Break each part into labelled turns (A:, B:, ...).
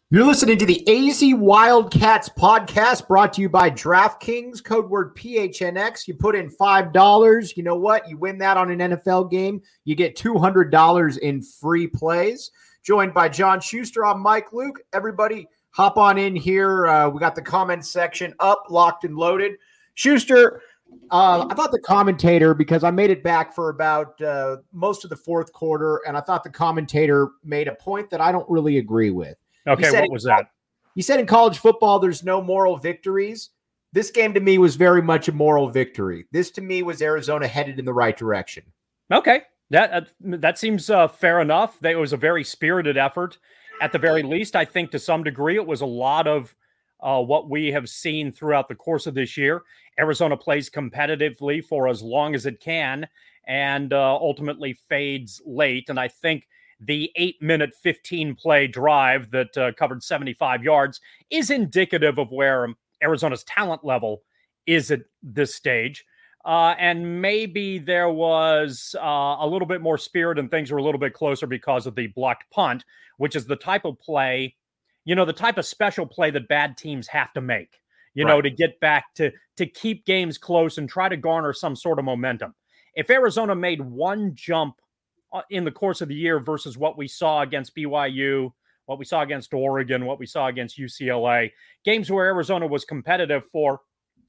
A: You're listening to the AZ Wildcats podcast brought to you by DraftKings, code word PHNX. You put in $5. You know what? You win that on an NFL game. You get $200 in free plays. Joined by John Schuster. I'm Mike Luke. Everybody hop on in here. We got the comments section up, locked and loaded. Schuster, I thought the commentator, because I made it back for about most of the fourth quarter, and I thought the commentator made a point that I don't really agree with.
B: Okay, what was that?
A: He said in college football, there's no moral victories. This game to me was very much a moral victory. This to me was Arizona headed in the right direction.
B: Okay, that seems fair enough. It was a very spirited effort. At the very least, I think to some degree it was a lot of what we have seen throughout the course of this year. Arizona plays competitively for as long as it can and ultimately fades late. And I think the 8-minute, 15-play drive that covered 75 yards is indicative of where Arizona's talent level is at this stage. And maybe there was a little bit more spirit and things were a little bit closer because of the blocked punt, which is the type of play, the type of special play that bad teams have to make, to get back to keep games close and try to garner some sort of momentum. If Arizona made one jump in the course of the year versus what we saw against BYU, what we saw against Oregon, what we saw against UCLA, games where Arizona was competitive for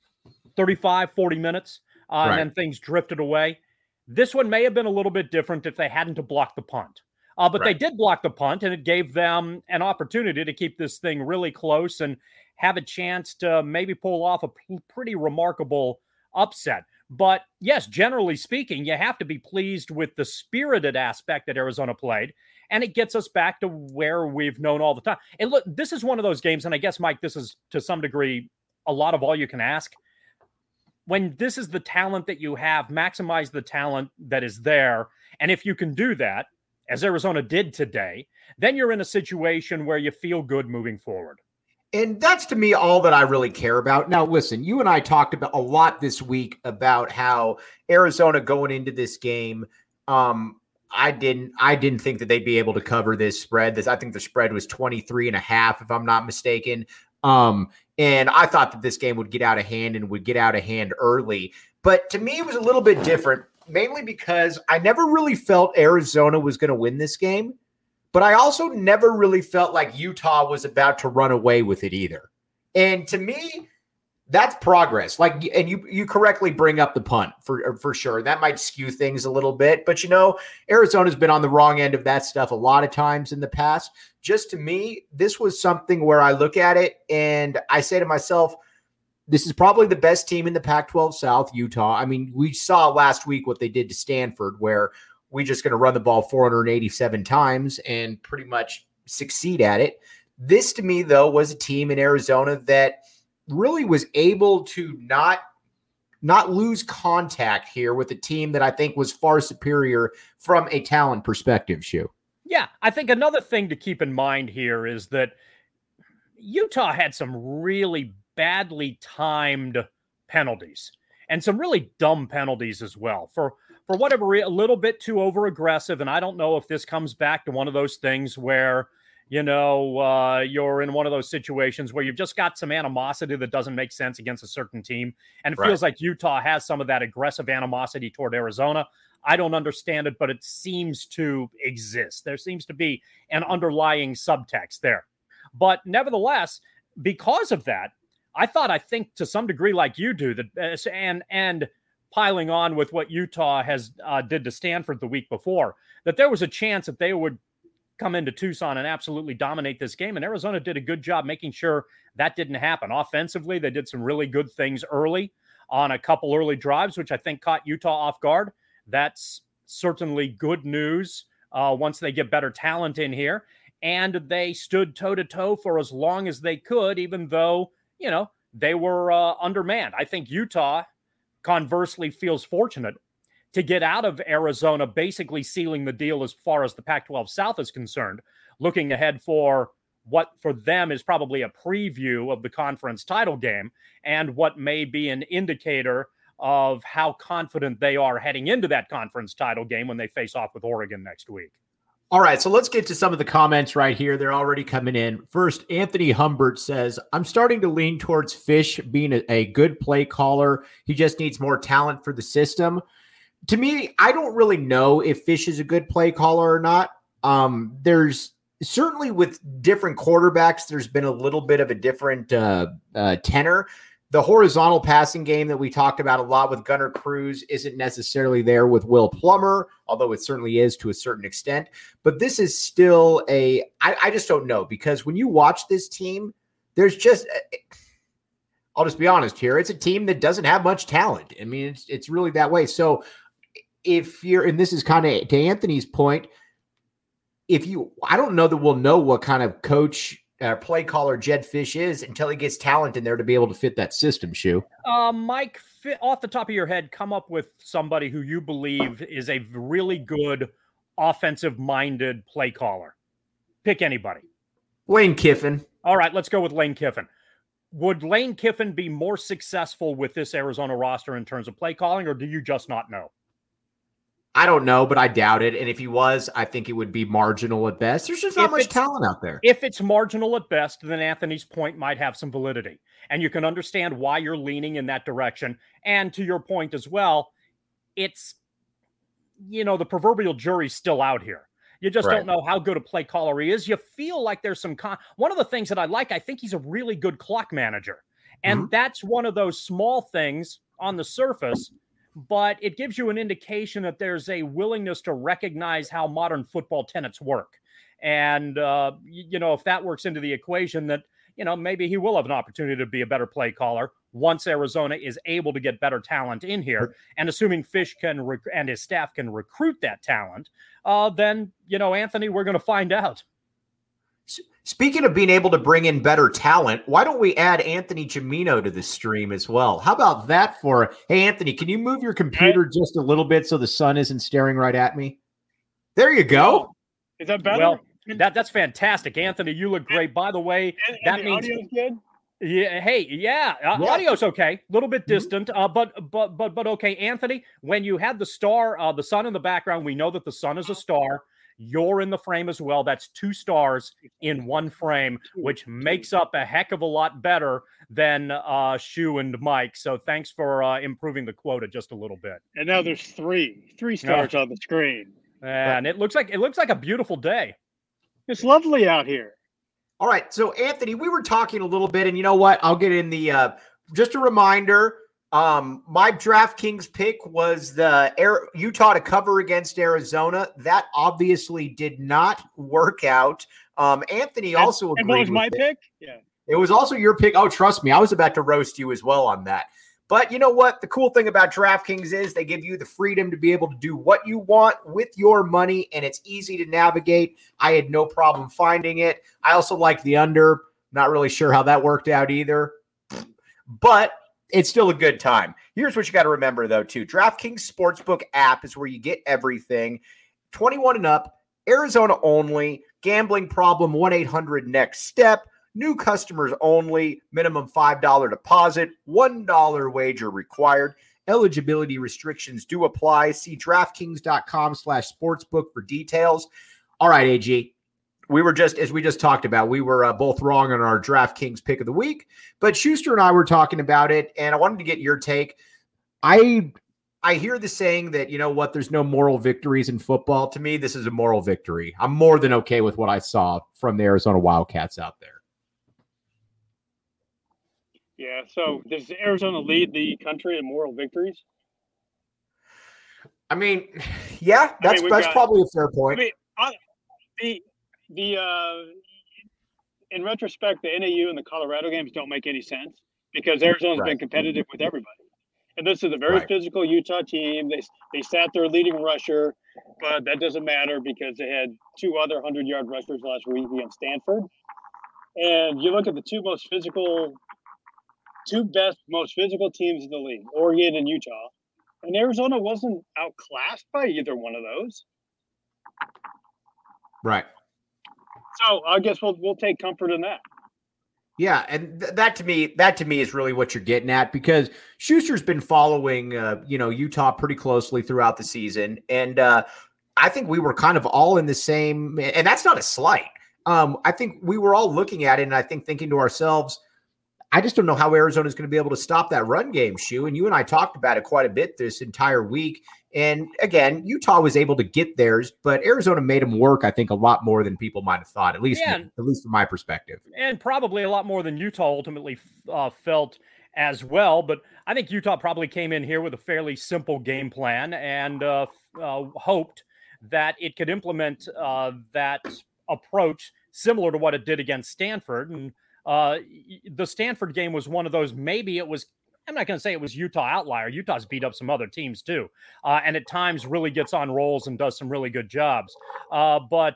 B: 35, 40 minutes, and then things drifted away. This one may have been a little bit different if they hadn't to block the punt. But they did block the punt, and it gave them an opportunity to keep this thing really close and have a chance to maybe pull off a pretty remarkable upset. But yes, generally speaking, you have to be pleased with the spirited aspect that Arizona played, and it gets us back to where we've known all the time. And look, this is one of those games, and I guess, Mike, this is to some degree a lot of all you can ask. When this is the talent that you have, maximize the talent that is there. And if you can do that, as Arizona did today, then you're in a situation where you feel good moving forward.
A: And that's, to me, all that I really care about. Now, listen, you and I talked about a lot this week about how Arizona going into this game, I didn't think that they'd be able to cover this spread. I think the spread was 23.5, if I'm not mistaken. And I thought that this game would get out of hand and would get out of hand early. But to me, it was a little bit different, mainly because I never really felt Arizona was going to win this game. But I also never really felt like Utah was about to run away with it either. And to me, that's progress. And you correctly bring up the punt for sure. That might skew things a little bit. But, Arizona's been on the wrong end of that stuff a lot of times in the past. Just to me, this was something where I look at it and I say to myself, this is probably the best team in the Pac-12 South, Utah. I mean, we saw last week what they did to Stanford, where we're just going to run the ball 487 times and pretty much succeed at it. This, to me, though, was a team in Arizona that really was able to not lose contact here with a team that I think was far superior from a talent perspective, Shu.
B: Yeah, I think another thing to keep in mind here is that Utah had some really badly timed penalties and some really dumb penalties as well. For whatever reason, a little bit too over-aggressive, and I don't know if this comes back to one of those things where, you're in one of those situations where you've just got some animosity that doesn't make sense against a certain team, and it feels like Utah has some of that aggressive animosity toward Arizona. I don't understand it, but it seems to exist. There seems to be an underlying subtext there. But nevertheless, because of that, I think to some degree, like you do, that and piling on with what Utah has did to Stanford the week before, that there was a chance that they would come into Tucson and absolutely dominate this game. And Arizona did a good job making sure that didn't happen. Offensively, they did some really good things early on a couple early drives, which I think caught Utah off guard. That's certainly good news once they get better talent in here. And they stood toe-to-toe for as long as they could, even though, they were undermanned. I think Utah, conversely, feels fortunate to get out of Arizona, basically sealing the deal as far as the Pac-12 South is concerned, looking ahead for what for them is probably a preview of the conference title game and what may be an indicator of how confident they are heading into that conference title game when they face off with Oregon next week.
A: All right, so let's get to some of the comments right here. They're already coming in. First, Anthony Humbert says, I'm starting to lean towards Fish being a good play caller. He just needs more talent for the system. To me, I don't really know if Fish is a good play caller or not. There's certainly with different quarterbacks, there's been a little bit of a different tenor. The horizontal passing game that we talked about a lot with Gunnar Cruz isn't necessarily there with Will Plummer, although it certainly is to a certain extent. But this is still I just don't know, because when you watch this team, there's just I'll just be honest here. It's a team that doesn't have much talent. I mean, it's really that way. So if you're, and this is kind of to Anthony's point, I don't know that we'll know what kind of coach play caller Jedd Fisch is until he gets talent in there to be able to fit that system, Shu.
B: Mike, off the top of your head, come up with somebody who you believe is a really good offensive-minded play caller. Pick anybody.
A: Lane Kiffin.
B: All right, let's go with Lane Kiffin. Would Lane Kiffin be more successful with this Arizona roster in terms of play calling, or do you just not know?
A: I don't know, but I doubt it. And if he was, I think it would be marginal at best. There's just not much talent out there.
B: If it's marginal at best, then Anthony's point might have some validity. And you can understand why you're leaning in that direction. And to your point as well, it's, the proverbial jury's still out here. You just don't know how good a play caller he is. You feel like there's some one of the things that I think he's a really good clock manager. And that's one of those small things on the surface, but it gives you an indication that there's a willingness to recognize how modern football tenets work. And, if that works into the equation, that, maybe he will have an opportunity to be a better play caller once Arizona is able to get better talent in here. And assuming Fisch and his staff can recruit that talent, then, Anthony, we're going to find out.
A: Speaking of being able to bring in better talent, why don't we add Anthony Gimino to the stream as well? How about that hey, Anthony, can you move your computer just a little bit so the sun isn't staring right at me? There you go.
C: Is that better?
B: Well, that's fantastic. Anthony, you look great. By the way, that means
C: audio's good?
B: Yeah. Hey, yeah. Audio's okay. A little bit distant, but okay. Anthony, when you had the star, the sun in the background, we know that the sun is a star. You're in the frame as well. That's 2 stars in one frame, which makes up a heck of a lot better than Shu and Mike. So thanks for improving the quota just a little bit.
C: And now there's 3 stars on the screen.
B: And it looks like a beautiful day.
C: It's lovely out here.
A: All right. So Anthony, we were talking a little bit, and you know what? I'll get in the just a reminder. My DraftKings pick was the Utah to cover against Arizona. That obviously did not work out. Anthony also agreed.
C: And what was my pick? Yeah.
A: It was also your pick. Oh, trust me, I was about to roast you as well on that. But you know what? The cool thing about DraftKings is they give you the freedom to be able to do what you want with your money, and it's easy to navigate. I had no problem finding it. I also like the under. Not really sure how that worked out either. But it's still a good time. Here's what you got to remember, though, too. DraftKings Sportsbook app is where you get everything. 21 and up, Arizona only, gambling problem, 1-800-NEXT-STEP, new customers only, minimum $5 deposit, $1 wager required. Eligibility restrictions do apply. See DraftKings.com/sportsbook for details. All right, AG. As we just talked about, we were both wrong on our DraftKings pick of the week, but Schuster and I were talking about it, and I wanted to get your take. I hear the saying that, there's no moral victories in football. To me, this is a moral victory. I'm more than okay with what I saw from the Arizona Wildcats out there.
C: Yeah, so does Arizona lead the country in moral victories?
A: I mean, yeah, that's probably a fair point.
C: In retrospect, the NAU and the Colorado games don't make any sense because Arizona's been competitive with everybody. And this is a very physical Utah team. They sat their leading rusher, but that doesn't matter because they had 2 other 100-yard rushers last week against Stanford. And you look at the 2 most physical teams in the league, Oregon and Utah, and Arizona wasn't outclassed by either one of those.
A: Right.
C: So I guess we'll take comfort in that.
A: Yeah, and that to me is really what you're getting at, because Schuster's been following Utah pretty closely throughout the season, and I think we were kind of all in the same, and that's not a slight. I think we were all looking at it, and I think thinking to ourselves, I just don't know how Arizona is going to be able to stop that run game, Shu. And you and I talked about it quite a bit this entire week. And again, Utah was able to get theirs, but Arizona made them work, I think, a lot more than people might have thought, at least from my perspective.
B: And probably a lot more than Utah ultimately felt as well. But I think Utah probably came in here with a fairly simple game plan and hoped that it could implement that approach similar to what it did against Stanford. And the Stanford game was one of those, I'm not going to say it was Utah outlier. Utah's beat up some other teams too. And at times really gets on rolls and does some really good jobs. But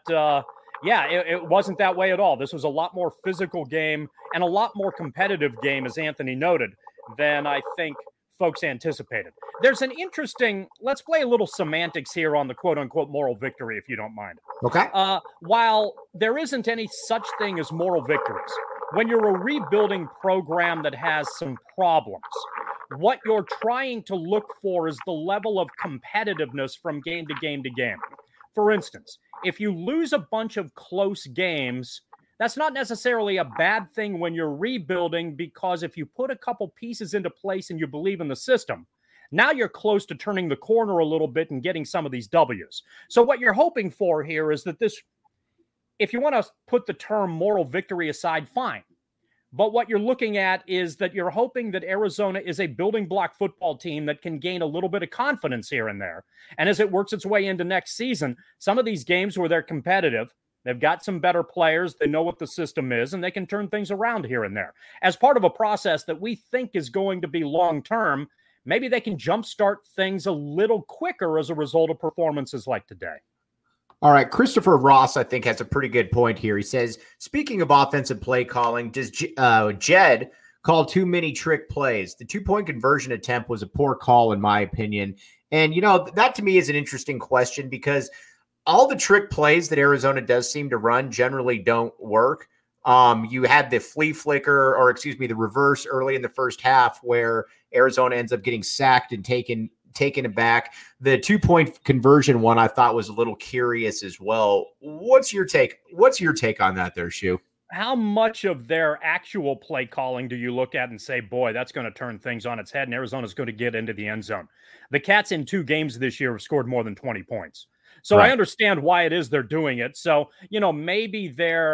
B: it wasn't that way at all. This was a lot more physical game and a lot more competitive game, as Anthony noted, than I think folks anticipated. There's an interesting, let's play a little semantics here on the quote unquote moral victory, if you don't mind.
A: Okay.
B: While there isn't any such thing as moral victories, when you're a rebuilding program that has some problems, what you're trying to look for is the level of competitiveness from game to game to game. For instance, if you lose a bunch of close games, that's not necessarily a bad thing when you're rebuilding, because if you put a couple pieces into place and you believe in the system, now you're close to turning the corner a little bit and getting some of these W's. So what you're hoping for here is that this, if you want to put the term moral victory aside, fine. But what you're looking at is that you're hoping that Arizona is a building block football team that can gain a little bit of confidence here and there. And as it works its way into next season, some of these games where they're competitive, they've got some better players, they know what the system is, and they can turn things around here and there. As part of a process that we think is going to be long-term, maybe they can jumpstart things a little quicker as a result of performances like today.
A: All right, Christopher Ross, I think, has a pretty good point here. He says, speaking of offensive play calling, does Jed call too many trick plays? The 2-point conversion attempt was a poor call, in my opinion. And, that to me is an interesting question, because all the trick plays that Arizona does seem to run generally don't work. You had the the reverse early in the first half where Arizona ends up getting sacked and taken it back. The 2-point conversion one I thought was a little curious as well. What's your take on that there, Shu?
B: How much of their actual play calling do you look at and say, boy, that's going to turn things on its head and Arizona's going to get into the end zone? The Cats in 2 games this year have scored more than 20 points. So right. I understand why it is they're doing it. So, maybe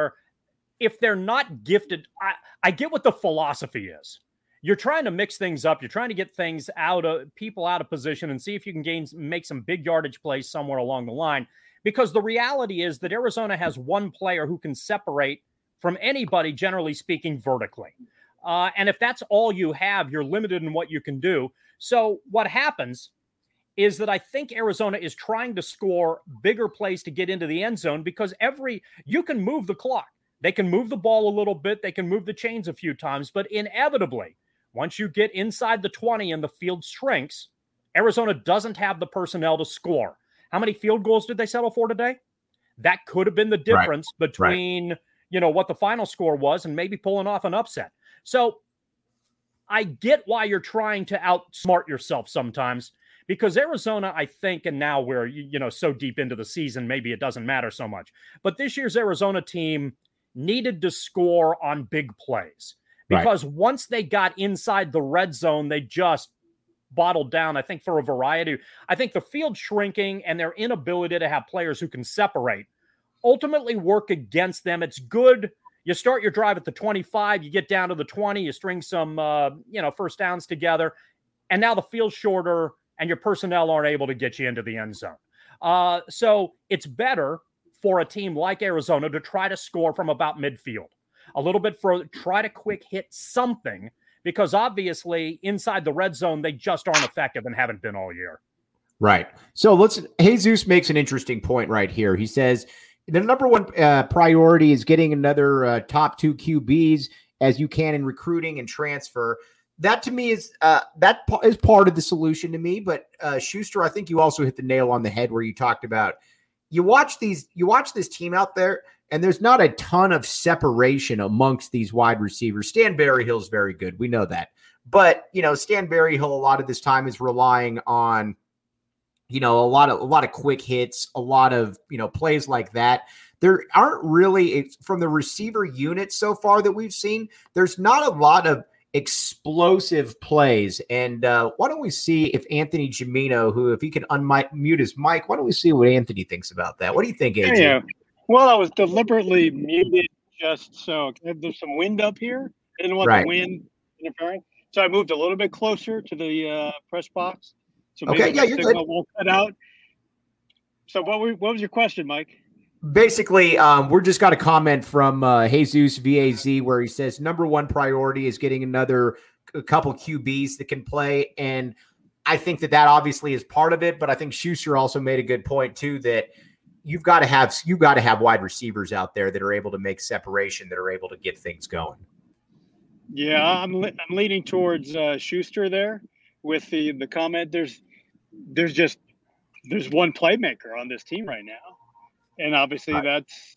B: if they're not gifted, I get what the philosophy is. You're trying to mix things up. You're trying to get things people out of position and see if you can make some big yardage plays somewhere along the line. Because the reality is that Arizona has one player who can separate from anybody, generally speaking, vertically. And if that's all you have, you're limited in what you can do. So what happens is that I think Arizona is trying to score bigger plays to get into the end zone, because you can move the clock. They can move the ball a little bit. They can move the chains a few times, but inevitably, once you get inside the 20 and the field shrinks, Arizona doesn't have the personnel to score. How many field goals did they settle for today? That could have been the difference between, what the final score was and maybe pulling off an upset. So I get why you're trying to outsmart yourself sometimes, because Arizona, I think, and now we're, so deep into the season, maybe it doesn't matter so much. But this year's Arizona team needed to score on big plays. Because once they got inside the red zone, they just bottled down, I think, for a variety. I think the field shrinking and their inability to have players who can separate ultimately work against them. It's good. You start your drive at the 25, you get down to the 20, you string some, first downs together, and now the field's shorter and your personnel aren't able to get you into the end zone. So it's better for a team like Arizona to try to score from about midfield. A little bit further, try to quick hit something, because obviously inside the red zone, they just aren't effective and haven't been all year.
A: Right. So Jesus makes an interesting point right here. He says the number one priority is getting another top 2 QBs as you can in recruiting and transfer. That to me is part of the solution to me. But Schuster, I think you also hit the nail on the head where you talked about you watch this team out there, and there's not a ton of separation amongst these wide receivers. Stan Berryhill is very good. We know that. But, Stan Berryhill, a lot of this time is relying on a lot of quick hits, a lot of, plays like that. There aren't really, from the receiver unit so far that we've seen, there's not a lot of explosive plays. And why don't we see if Anthony Gimino, who, if he can unmute his mic, why don't we see what Anthony thinks about that? What do you think, AJ?
C: Yeah. Well, I was deliberately muted just so there's some wind up here. I didn't want the wind interfering. So I moved a little bit closer to the press box. So maybe the signal won't cut out. So what was your question, Mike?
A: Basically, we're just got a comment from Jesus VAZ where he says number one priority is getting a couple QBs that can play. And I think that obviously is part of it. But I think Schuster also made a good point too, that you've got to have wide receivers out there that are able to make separation, that are able to get things going.
C: Yeah, I'm leaning towards Schuster there with the comment. There's one playmaker on this team right now. And obviously that's,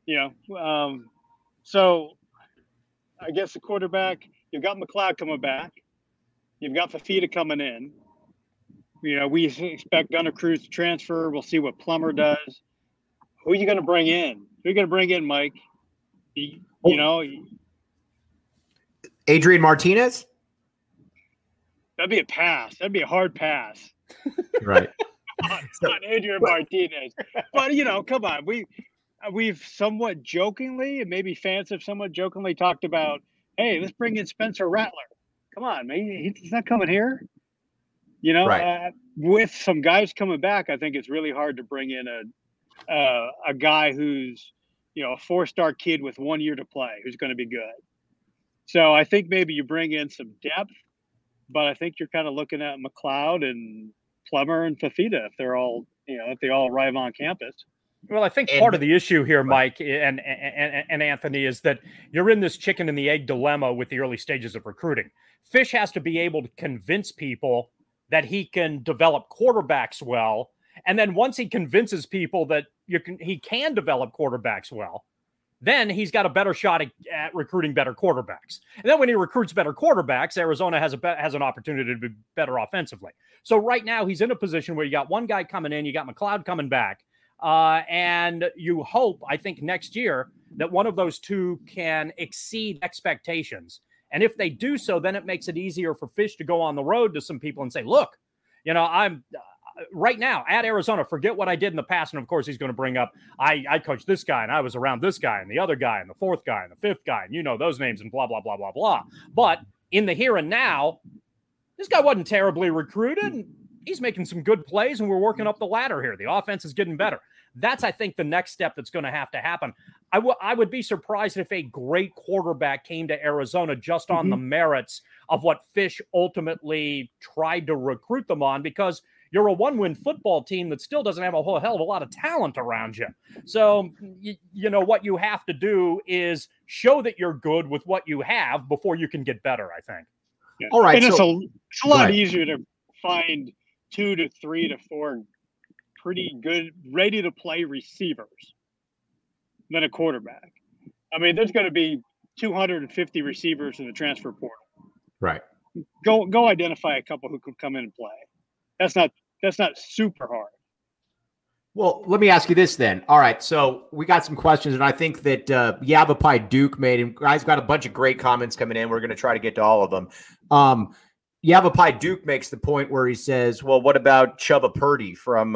C: so I guess the quarterback, you've got McLeod coming back. You've got Fafita coming in. We expect Gunnar Cruz to transfer. We'll see what Plummer does. Who are you going to bring in? Who are you going to bring in, Mike?
A: Adrian Martinez?
C: That'd be a pass. That'd be a hard pass.
A: Right.
C: on Adrian Martinez. But, come on. We've somewhat jokingly, and maybe fans have somewhat jokingly talked about, hey, let's bring in Spencer Rattler. Come on, man. He's not coming here. With some guys coming back, I think it's really hard to bring in a guy who's, a 4-star kid with 1 year to play who's going to be good. So I think maybe you bring in some depth, but I think you're kind of looking at McLeod and Plummer and Fafita if they're all, if they all arrive on campus.
B: Well, I think part of the issue here, Mike and Anthony, is that you're in this chicken and the egg dilemma with the early stages of recruiting. Fish has to be able to convince people that he can develop quarterbacks well. And then once he convinces people that he can develop quarterbacks well, then he's got a better shot at recruiting better quarterbacks. And then when he recruits better quarterbacks, Arizona has an opportunity to be better offensively. So right now he's in a position where you got one guy coming in, you got McLeod coming back, and you hope, I think, next year that one of those two can exceed expectations. And if they do so, then it makes it easier for Fish to go on the road to some people and say, look, I'm right now at Arizona, forget what I did in the past. And of course, he's going to bring up, I coached this guy and I was around this guy and the other guy and the fourth guy and the fifth guy. And those names and blah, blah, blah, blah, blah. But in the here and now, this guy wasn't terribly recruited. And he's making some good plays and we're working up the ladder here. The offense is getting better. That's, I think, the next step that's going to have to happen. I would be surprised if a great quarterback came to Arizona just on the merits of what Fish ultimately tried to recruit them on, because you're a one-win football team that still doesn't have a whole hell of a lot of talent around you. So, what you have to do is show that you're good with what you have before you can get better, I think.
C: Yeah. All right. And it's a lot easier to find 2 to 3 to 4 pretty good, ready-to-play receivers than a quarterback. I mean, there's going to be 250 receivers in the transfer portal.
A: Right.
C: Go identify a couple who could come in and play. That's not super hard.
A: Well, let me ask you this then. All right, so we got some questions, and I think that Yavapai Duke made him. Guys got a bunch of great comments coming in. We're going to try to get to all of them. Yavapai Duke makes the point where he says, "Well, what about Chubba Purdy from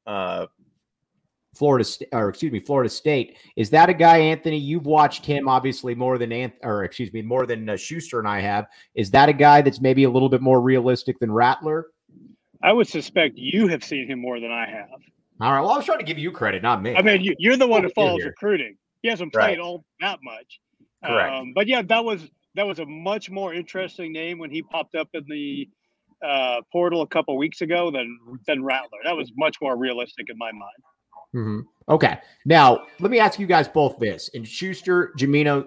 A: Florida State? Is that a guy, Anthony? You've watched him obviously more than Schuster and I have. Is that a guy that's maybe a little bit more realistic than Rattler?"
C: I would suspect you have seen him more than I have.
A: All right. Well, I was trying to give you credit, not me.
C: I mean, you're the one who follows recruiting. He hasn't played all that much.
A: Correct.
C: But yeah, that was a much more interesting name when he popped up in the portal a couple weeks ago than Rattler. That was much more realistic in my mind.
A: Mm-hmm. Okay. Now, let me ask you guys both this. And Schuster, Gimino,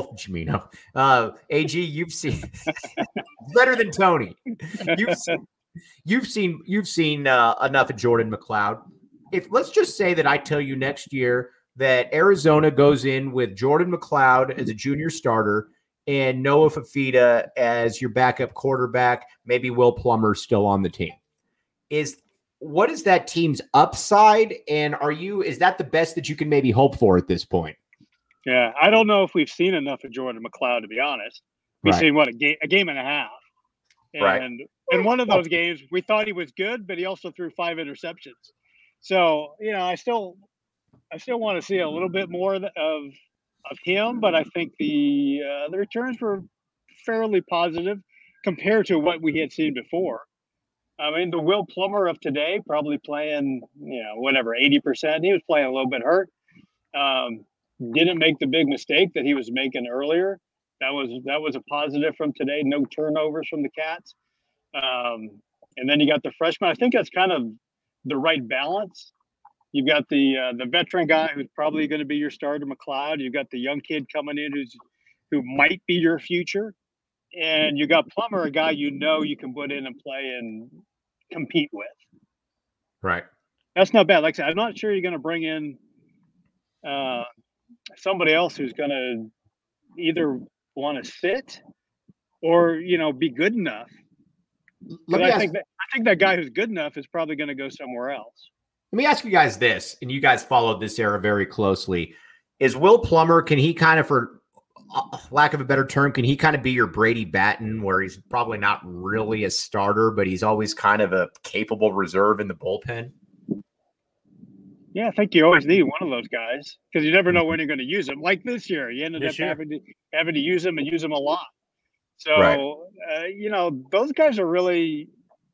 A: AG, you've seen better than Tony. You've seen enough of Jordan McLeod. If let's just say that I tell you next year that Arizona goes in with Jordan McLeod as a junior starter and Noah Fafita as your backup quarterback, maybe Will Plummer still on the team. what is that team's upside? And is that the best that you can maybe hope for at this point?
C: Yeah, I don't know if we've seen enough of Jordan McLeod, to be honest. We've seen a game and a half. And in one of those games, we thought he was good, but he also threw 5 interceptions. So, I still want to see a little bit more of him, but I think the returns were fairly positive compared to what we had seen before. I mean, the Will Plummer of today probably playing, 80%. He was playing a little bit hurt. Didn't make the big mistake that he was making earlier. That was a positive from today. No turnovers from the Cats. And then you got the freshman. I think that's kind of the right balance. You've got the veteran guy who's probably going to be your starter, McLeod. You've got the young kid coming in who might be your future. And you got Plummer, a guy you can put in and play and compete with.
A: Right.
C: That's not bad. Like I said, I'm not sure you're going to bring in somebody else who's going to either want to sit or, be good enough. I think that guy who's good enough is probably going to go somewhere else.
A: Let me ask you guys this, and you guys followed this era very closely. Is Will Plummer, can he kind of, for lack of a better term, can he kind of be your Brady Batten, where he's probably not really a starter, but he's always kind of a capable reserve in the bullpen?
C: Yeah, I think you always need one of those guys because you never know when you're going to use them. Like this year, you ended up having to use them and use them a lot. So, those guys are really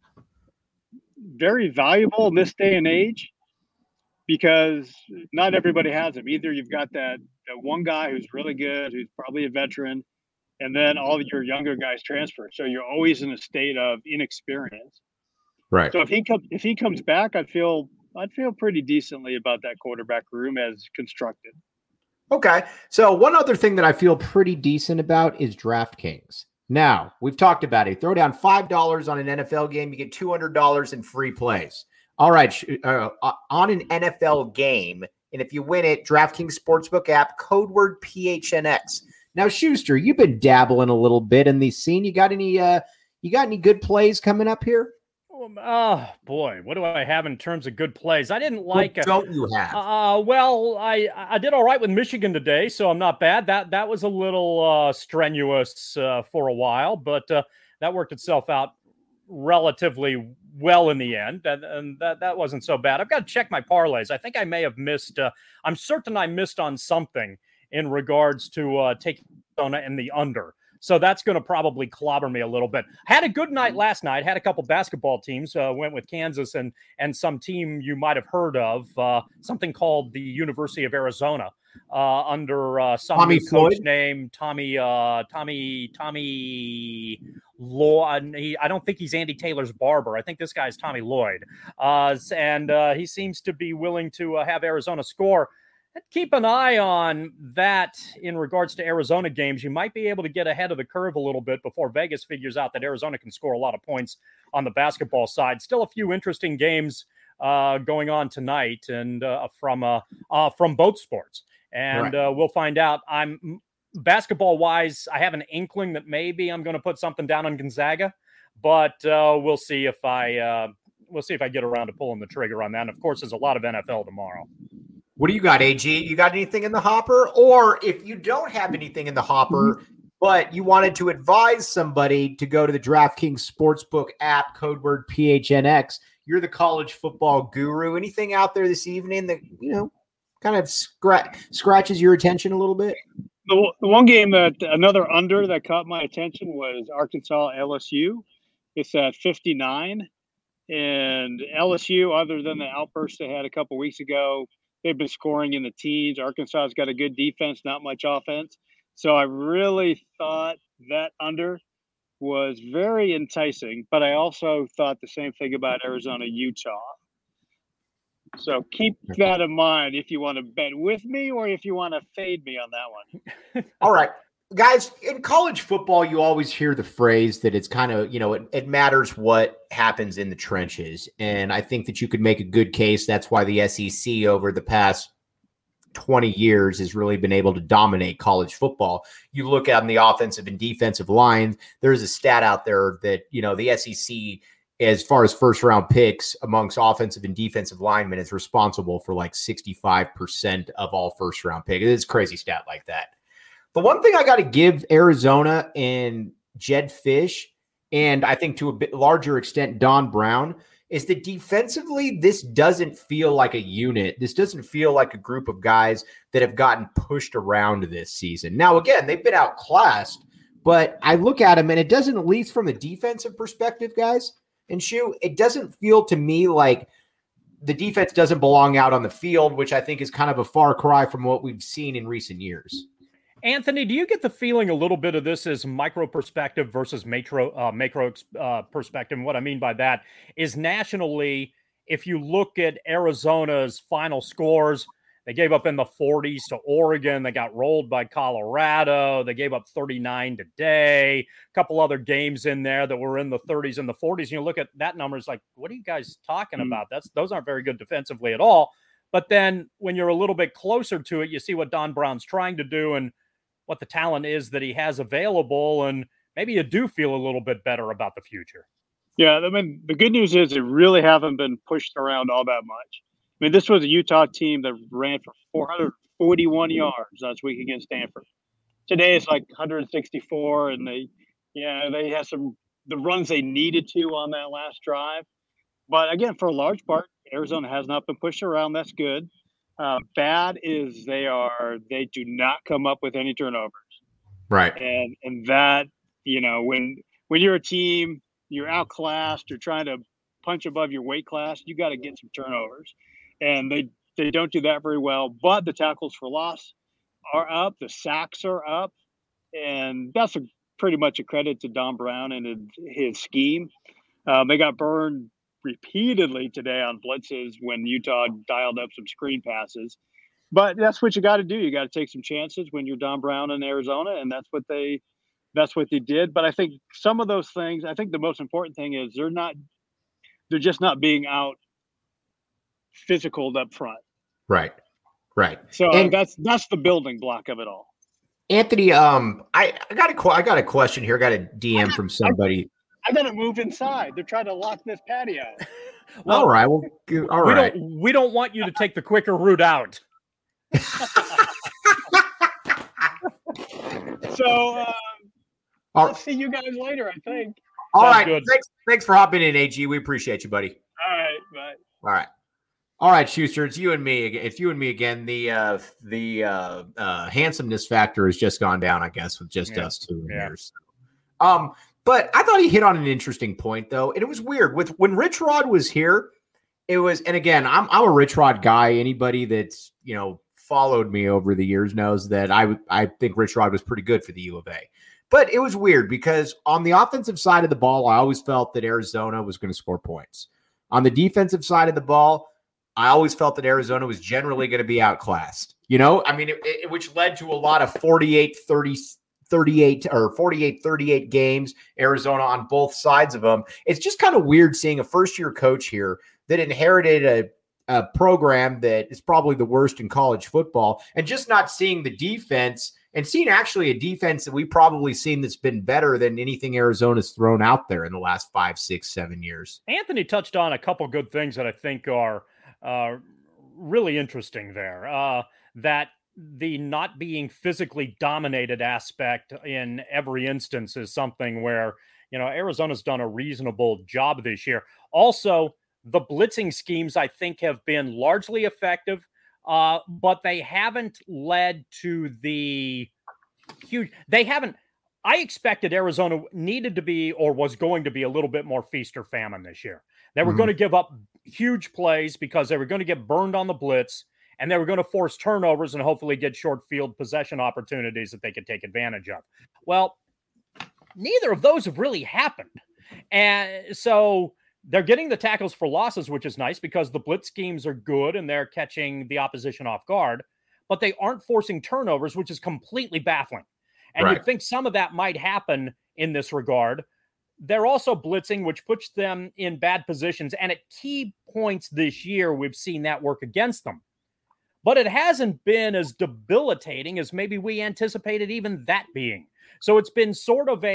C: very valuable in this day and age because not everybody has them. Either you've got that one guy who's really good, who's probably a veteran, and then all of your younger guys transfer. So you're always in a state of inexperience.
A: Right.
C: So if he comes back, I'd feel pretty decently about that quarterback room as constructed.
A: Okay. So one other thing that I feel pretty decent about is DraftKings. Now, we've talked about it. Throw down $5 on an NFL game, you get $200 in free plays. All right. On an NFL game, and if you win it, DraftKings Sportsbook app, code word PHNX. Now, Schuster, you've been dabbling a little bit in the scene. You got any good plays coming up here?
B: Oh boy, what do I have in terms of good plays? I didn't like.
A: What don't you have?
B: Well, I did all right with Michigan today, so I'm not bad. That was a little strenuous for a while, but that worked itself out relatively well in the end, and that wasn't so bad. I've got to check my parlays. I think I may have missed. I'm certain I missed on something in regards to taking Arizona and the under. So that's going to probably clobber me a little bit. Had a good night last night. Had a couple basketball teams. Went with Kansas and some team you might have heard of, something called the University of Arizona, under some new coach named Tommy Lloyd. I don't think he's Andy Taylor's barber. I think this guy's Tommy Lloyd. And he seems to be willing to have Arizona score. Keep an eye on that in regards to Arizona games. You might be able to get ahead of the curve a little bit before Vegas figures out that Arizona can score a lot of points on the basketball side. Still a few interesting games going on tonight and from both sports. And we'll find out. Basketball-wise, I have an inkling that maybe I'm going to put something down on Gonzaga, but we'll see if I get around to pulling the trigger on that. And, of course, there's a lot of NFL tomorrow.
A: What do you got, AG? You got anything in the hopper? Or if you don't have anything in the hopper, but you wanted to advise somebody to go to the DraftKings Sportsbook app, code word PHNX, you're the college football guru. Anything out there this evening that, kind of scratches your attention a little bit?
C: The one game another under that caught my attention was Arkansas LSU. It's at 59. And LSU, other than the outburst they had a couple weeks ago, they've been scoring in the teens. Arkansas's got a good defense, not much offense. So I really thought that under was very enticing, but I also thought the same thing about Arizona, Utah. So keep that in mind if you want to bet with me or if you want to fade me on that one.
A: All right. Guys, in college football, you always hear the phrase that it's kind of, it matters what happens in the trenches. And I think that you could make a good case. That's why the SEC over the past 20 years has really been able to dominate college football. You look at on the offensive and defensive lines, there's a stat out there that, the SEC as far as first round picks amongst offensive and defensive linemen, is responsible for like 65% of all first round picks. It's a crazy stat like that. The one thing I got to give Arizona and Jedd Fisch, and I think to a bit larger extent Don Brown, is that defensively, this doesn't feel like a unit. This doesn't feel like a group of guys that have gotten pushed around this season. Now, again, they've been outclassed, but I look at them and it doesn't, at least from a defensive perspective, guys, and Shu, it doesn't feel to me like the defense doesn't belong out on the field, which I think is kind of a far cry from what we've seen in recent years.
B: Anthony, do you get the feeling a little bit of this is micro perspective versus macro perspective? And what I mean by that is nationally, if you look at Arizona's final scores, they gave up in the 40s to Oregon. They got rolled by Colorado. They gave up 39 today. A couple other games in there that were in the 30s and the 40s. And you look at that number, it's like, what are you guys talking about? Those aren't very good defensively at all. But then when you're a little bit closer to it, you see what Don Brown's trying to do and what the talent is that he has available, and maybe you do feel a little bit better about the future.
C: Yeah, I mean, the good news is they really haven't been pushed around all that much. I mean, this was a Utah team that ran for 441 yards last week against Stanford. Today it's like 164, and they had the runs they needed to on that last drive. But again, for a large part, Arizona has not been pushed around. That's good. Bad is they do not come up with any turnovers.
A: Right.
C: And that, when you're a team, you're outclassed, you're trying to punch above your weight class, you got to get some turnovers. And they don't do that very well, but the tackles for loss are up, the sacks are up, and that's pretty much a credit to Don Brown and his scheme. They got burned repeatedly today on blitzes when Utah dialed up some screen passes, but that's what you got to do. You got to take some chances when you're Don Brown in Arizona, and that's what they did. But I think some of those things, I think the most important thing is they're just not being out physical up front.
A: Right.
C: So that's the building block of it all.
A: Anthony, I got a question here. I got a DM from somebody.
C: I gotta move inside. They're trying to lock this patio.
A: Well, all right. Well, all right.
B: We don't want you to take the quicker route out.
C: So I'll see you guys later, I think.
A: All right. Good. Thanks for hopping in, AG. We appreciate you, buddy.
C: All right. Bye.
A: All right, Schuster. It's you and me. It's you and me again. The handsomeness factor has just gone down, I guess, with just us two in here. So. But I thought he hit on an interesting point, though, and it was weird when Rich Rod was here. It was, and again, I'm a Rich Rod guy. Anybody that's followed me over the years knows that I think Rich Rod was pretty good for the U of A. But it was weird because on the offensive side of the ball, I always felt that Arizona was going to score points. On the defensive side of the ball, I always felt that Arizona was generally going to be outclassed. I mean, which led to a lot of 48-38 games, Arizona on both sides of them. It's just kind of weird seeing a first-year coach here that inherited a program that is probably the worst in college football, and just not seeing the defense and seeing actually a defense that we've probably seen that's been better than anything Arizona's thrown out there in the last 5, 6, 7 years.
B: Anthony touched on a couple good things that I think are really interesting there. That the not being physically dominated aspect in every instance is something where, Arizona's done a reasonable job this year. Also, the blitzing schemes, I think, have been largely effective, but they haven't led to the huge. I expected Arizona needed to be or was going to be a little bit more feast or famine this year. They were going to give up huge plays because they were going to get burned on the blitz, and they were going to force turnovers and hopefully get short field possession opportunities that they could take advantage of. Well, neither of those have really happened. And so they're getting the tackles for losses, which is nice because the blitz schemes are good and they're catching the opposition off guard, but they aren't forcing turnovers, which is completely baffling. And you'd think some of that might happen in this regard. They're also blitzing, which puts them in bad positions. And at key points this year, we've seen that work against them. But it hasn't been as debilitating as maybe we anticipated even that being. So it's been sort of a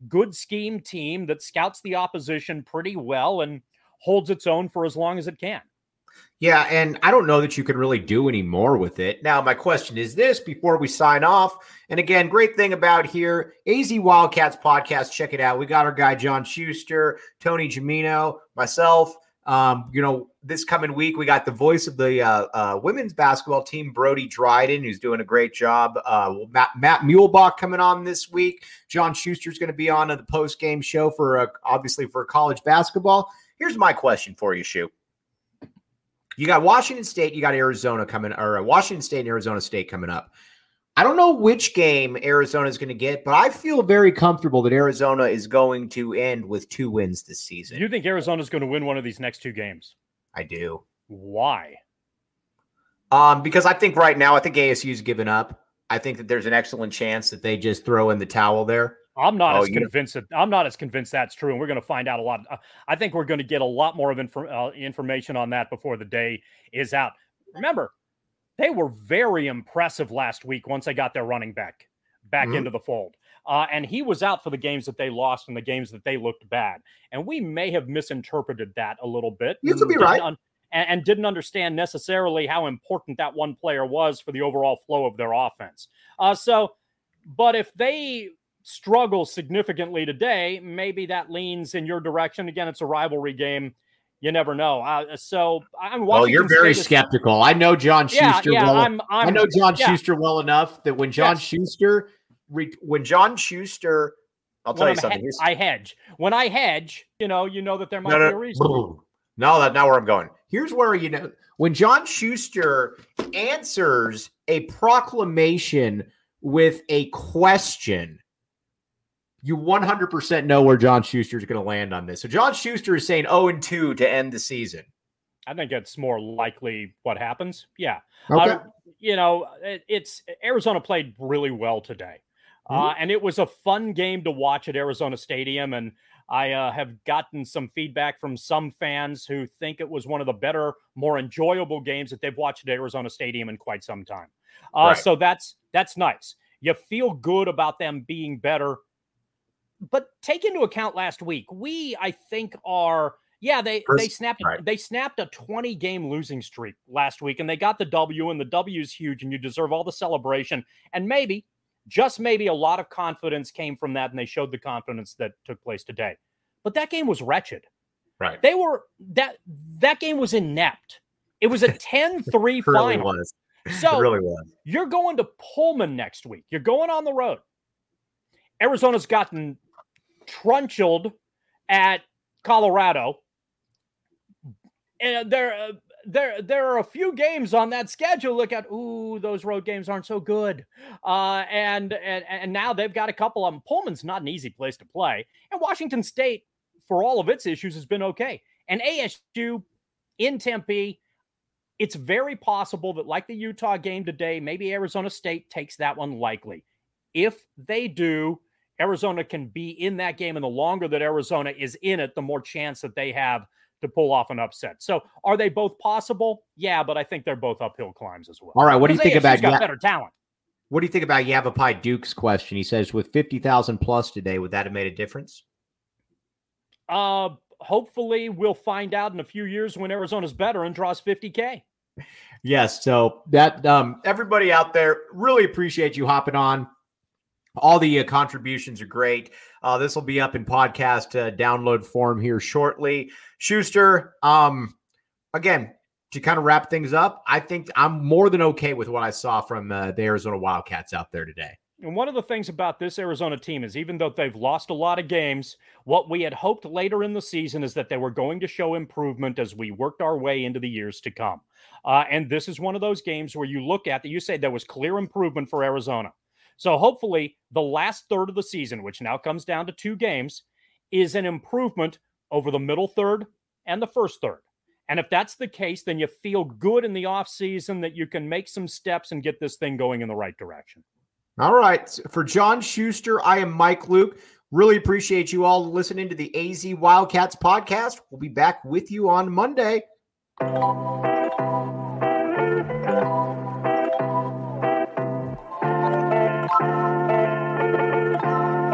B: good scheme team that scouts the opposition pretty well and holds its own for as long as it can.
A: Yeah, and I don't know that you can really do any more with it. Now, my question is this before we sign off. And again, great thing about here, AZ Wildcats podcast, check it out. We got our guy, John Schuster, Tony Gimino, myself. This coming week, we got the voice of the women's basketball team, Brody Dryden, who's doing a great job. Matt Muehlbach coming on this week. John Schuster's going to be on the post-game show obviously for college basketball. Here's my question for you, Shu. You got Washington State, you got Arizona coming, or Washington State and Arizona State coming up. I don't know which game Arizona is going to get, but I feel very comfortable that Arizona is going to end with 2 wins this season.
B: You think Arizona is going to win one of these next 2 games?
A: I do.
B: Why?
A: Because I think right now, ASU's given up. I think that there's an excellent chance that they just throw in the towel there.
B: I'm not as convinced that's true, and we're going to find out a lot. I think we're going to get a lot more of information on that before the day is out. Remember, they were very impressive last week once they got their running back into the fold. And he was out for the games that they lost and the games that they looked bad. And we may have misinterpreted that a little bit.
A: You could be right.
B: And didn't understand necessarily how important that one player was for the overall flow of their offense. But if they struggle significantly today, maybe that leans in your direction. Again, it's a rivalry game. You never know. So I'm watching. Oh,
A: you're very skeptical. I know John Schuster. I know John Schuster well enough that when John Schuster, I'll tell you something.
B: I hedge. When I hedge, you know that there might be a reason.
A: No, that's not where I'm going. Here's where when John Schuster answers a proclamation with a question, you 100% know where John Schuster is going to land on this. So John Schuster is saying 0-2 to end the season.
B: I think it's more likely what happens. Yeah.
A: Okay.
B: It's Arizona played really well today. And it was a fun game to watch at Arizona Stadium. And I have gotten some feedback from some fans who think it was one of the better, more enjoyable games that they've watched at Arizona Stadium in quite some time. Right. So that's nice. You feel good about them being better. But take into account last week, they snapped a 20-game losing streak last week, and they got the W, and the W is huge, and you deserve all the celebration. And maybe, just maybe, a lot of confidence came from that, and they showed the confidence that took place today. But that game was wretched.
A: Right.
B: That game was inept. It was a 10-3 final.
A: Really was.
B: So
A: it really was.
B: You're going to Pullman next week. You're going on the road. Arizona's gotten trunchled at Colorado. And there are a few games on that schedule. Look at, those road games aren't so good. And now they've got a couple of them. Pullman's not an easy place to play. And Washington State, for all of its issues, has been okay. And ASU in Tempe, it's very possible that, like the Utah game today, maybe Arizona State takes that one likely. If they do, Arizona can be in that game, and the longer that Arizona is in it, the more chance that they have to pull off an upset. So are they both possible? Yeah, but I think they're both uphill climbs as well.
A: All right, what do you think about
B: better talent?
A: What do you think about Yavapai Duke's question? He says, with 50,000 plus today, would that have made a difference?
B: Hopefully we'll find out in a few years when Arizona's better and draws 50K.
A: Yes, so that everybody out there, really appreciate you hopping on. All the contributions are great. This will be up in podcast download form here shortly. Schuster, again, to kind of wrap things up, I think I'm more than okay with what I saw from the Arizona Wildcats out there today.
B: And one of the things about this Arizona team is, even though they've lost a lot of games, what we had hoped later in the season is that they were going to show improvement as we worked our way into the years to come. And this is one of those games where you look at that, you say there was clear improvement for Arizona. So hopefully the last third of the season, which now comes down to 2 games, is an improvement over the middle third and the first third. And if that's the case, then you feel good in the offseason that you can make some steps and get this thing going in the right direction.
A: All right. For John Schuster, I am Mike Luke. Really appreciate you all listening to the AZ Wildcats podcast. We'll be back with you on Monday.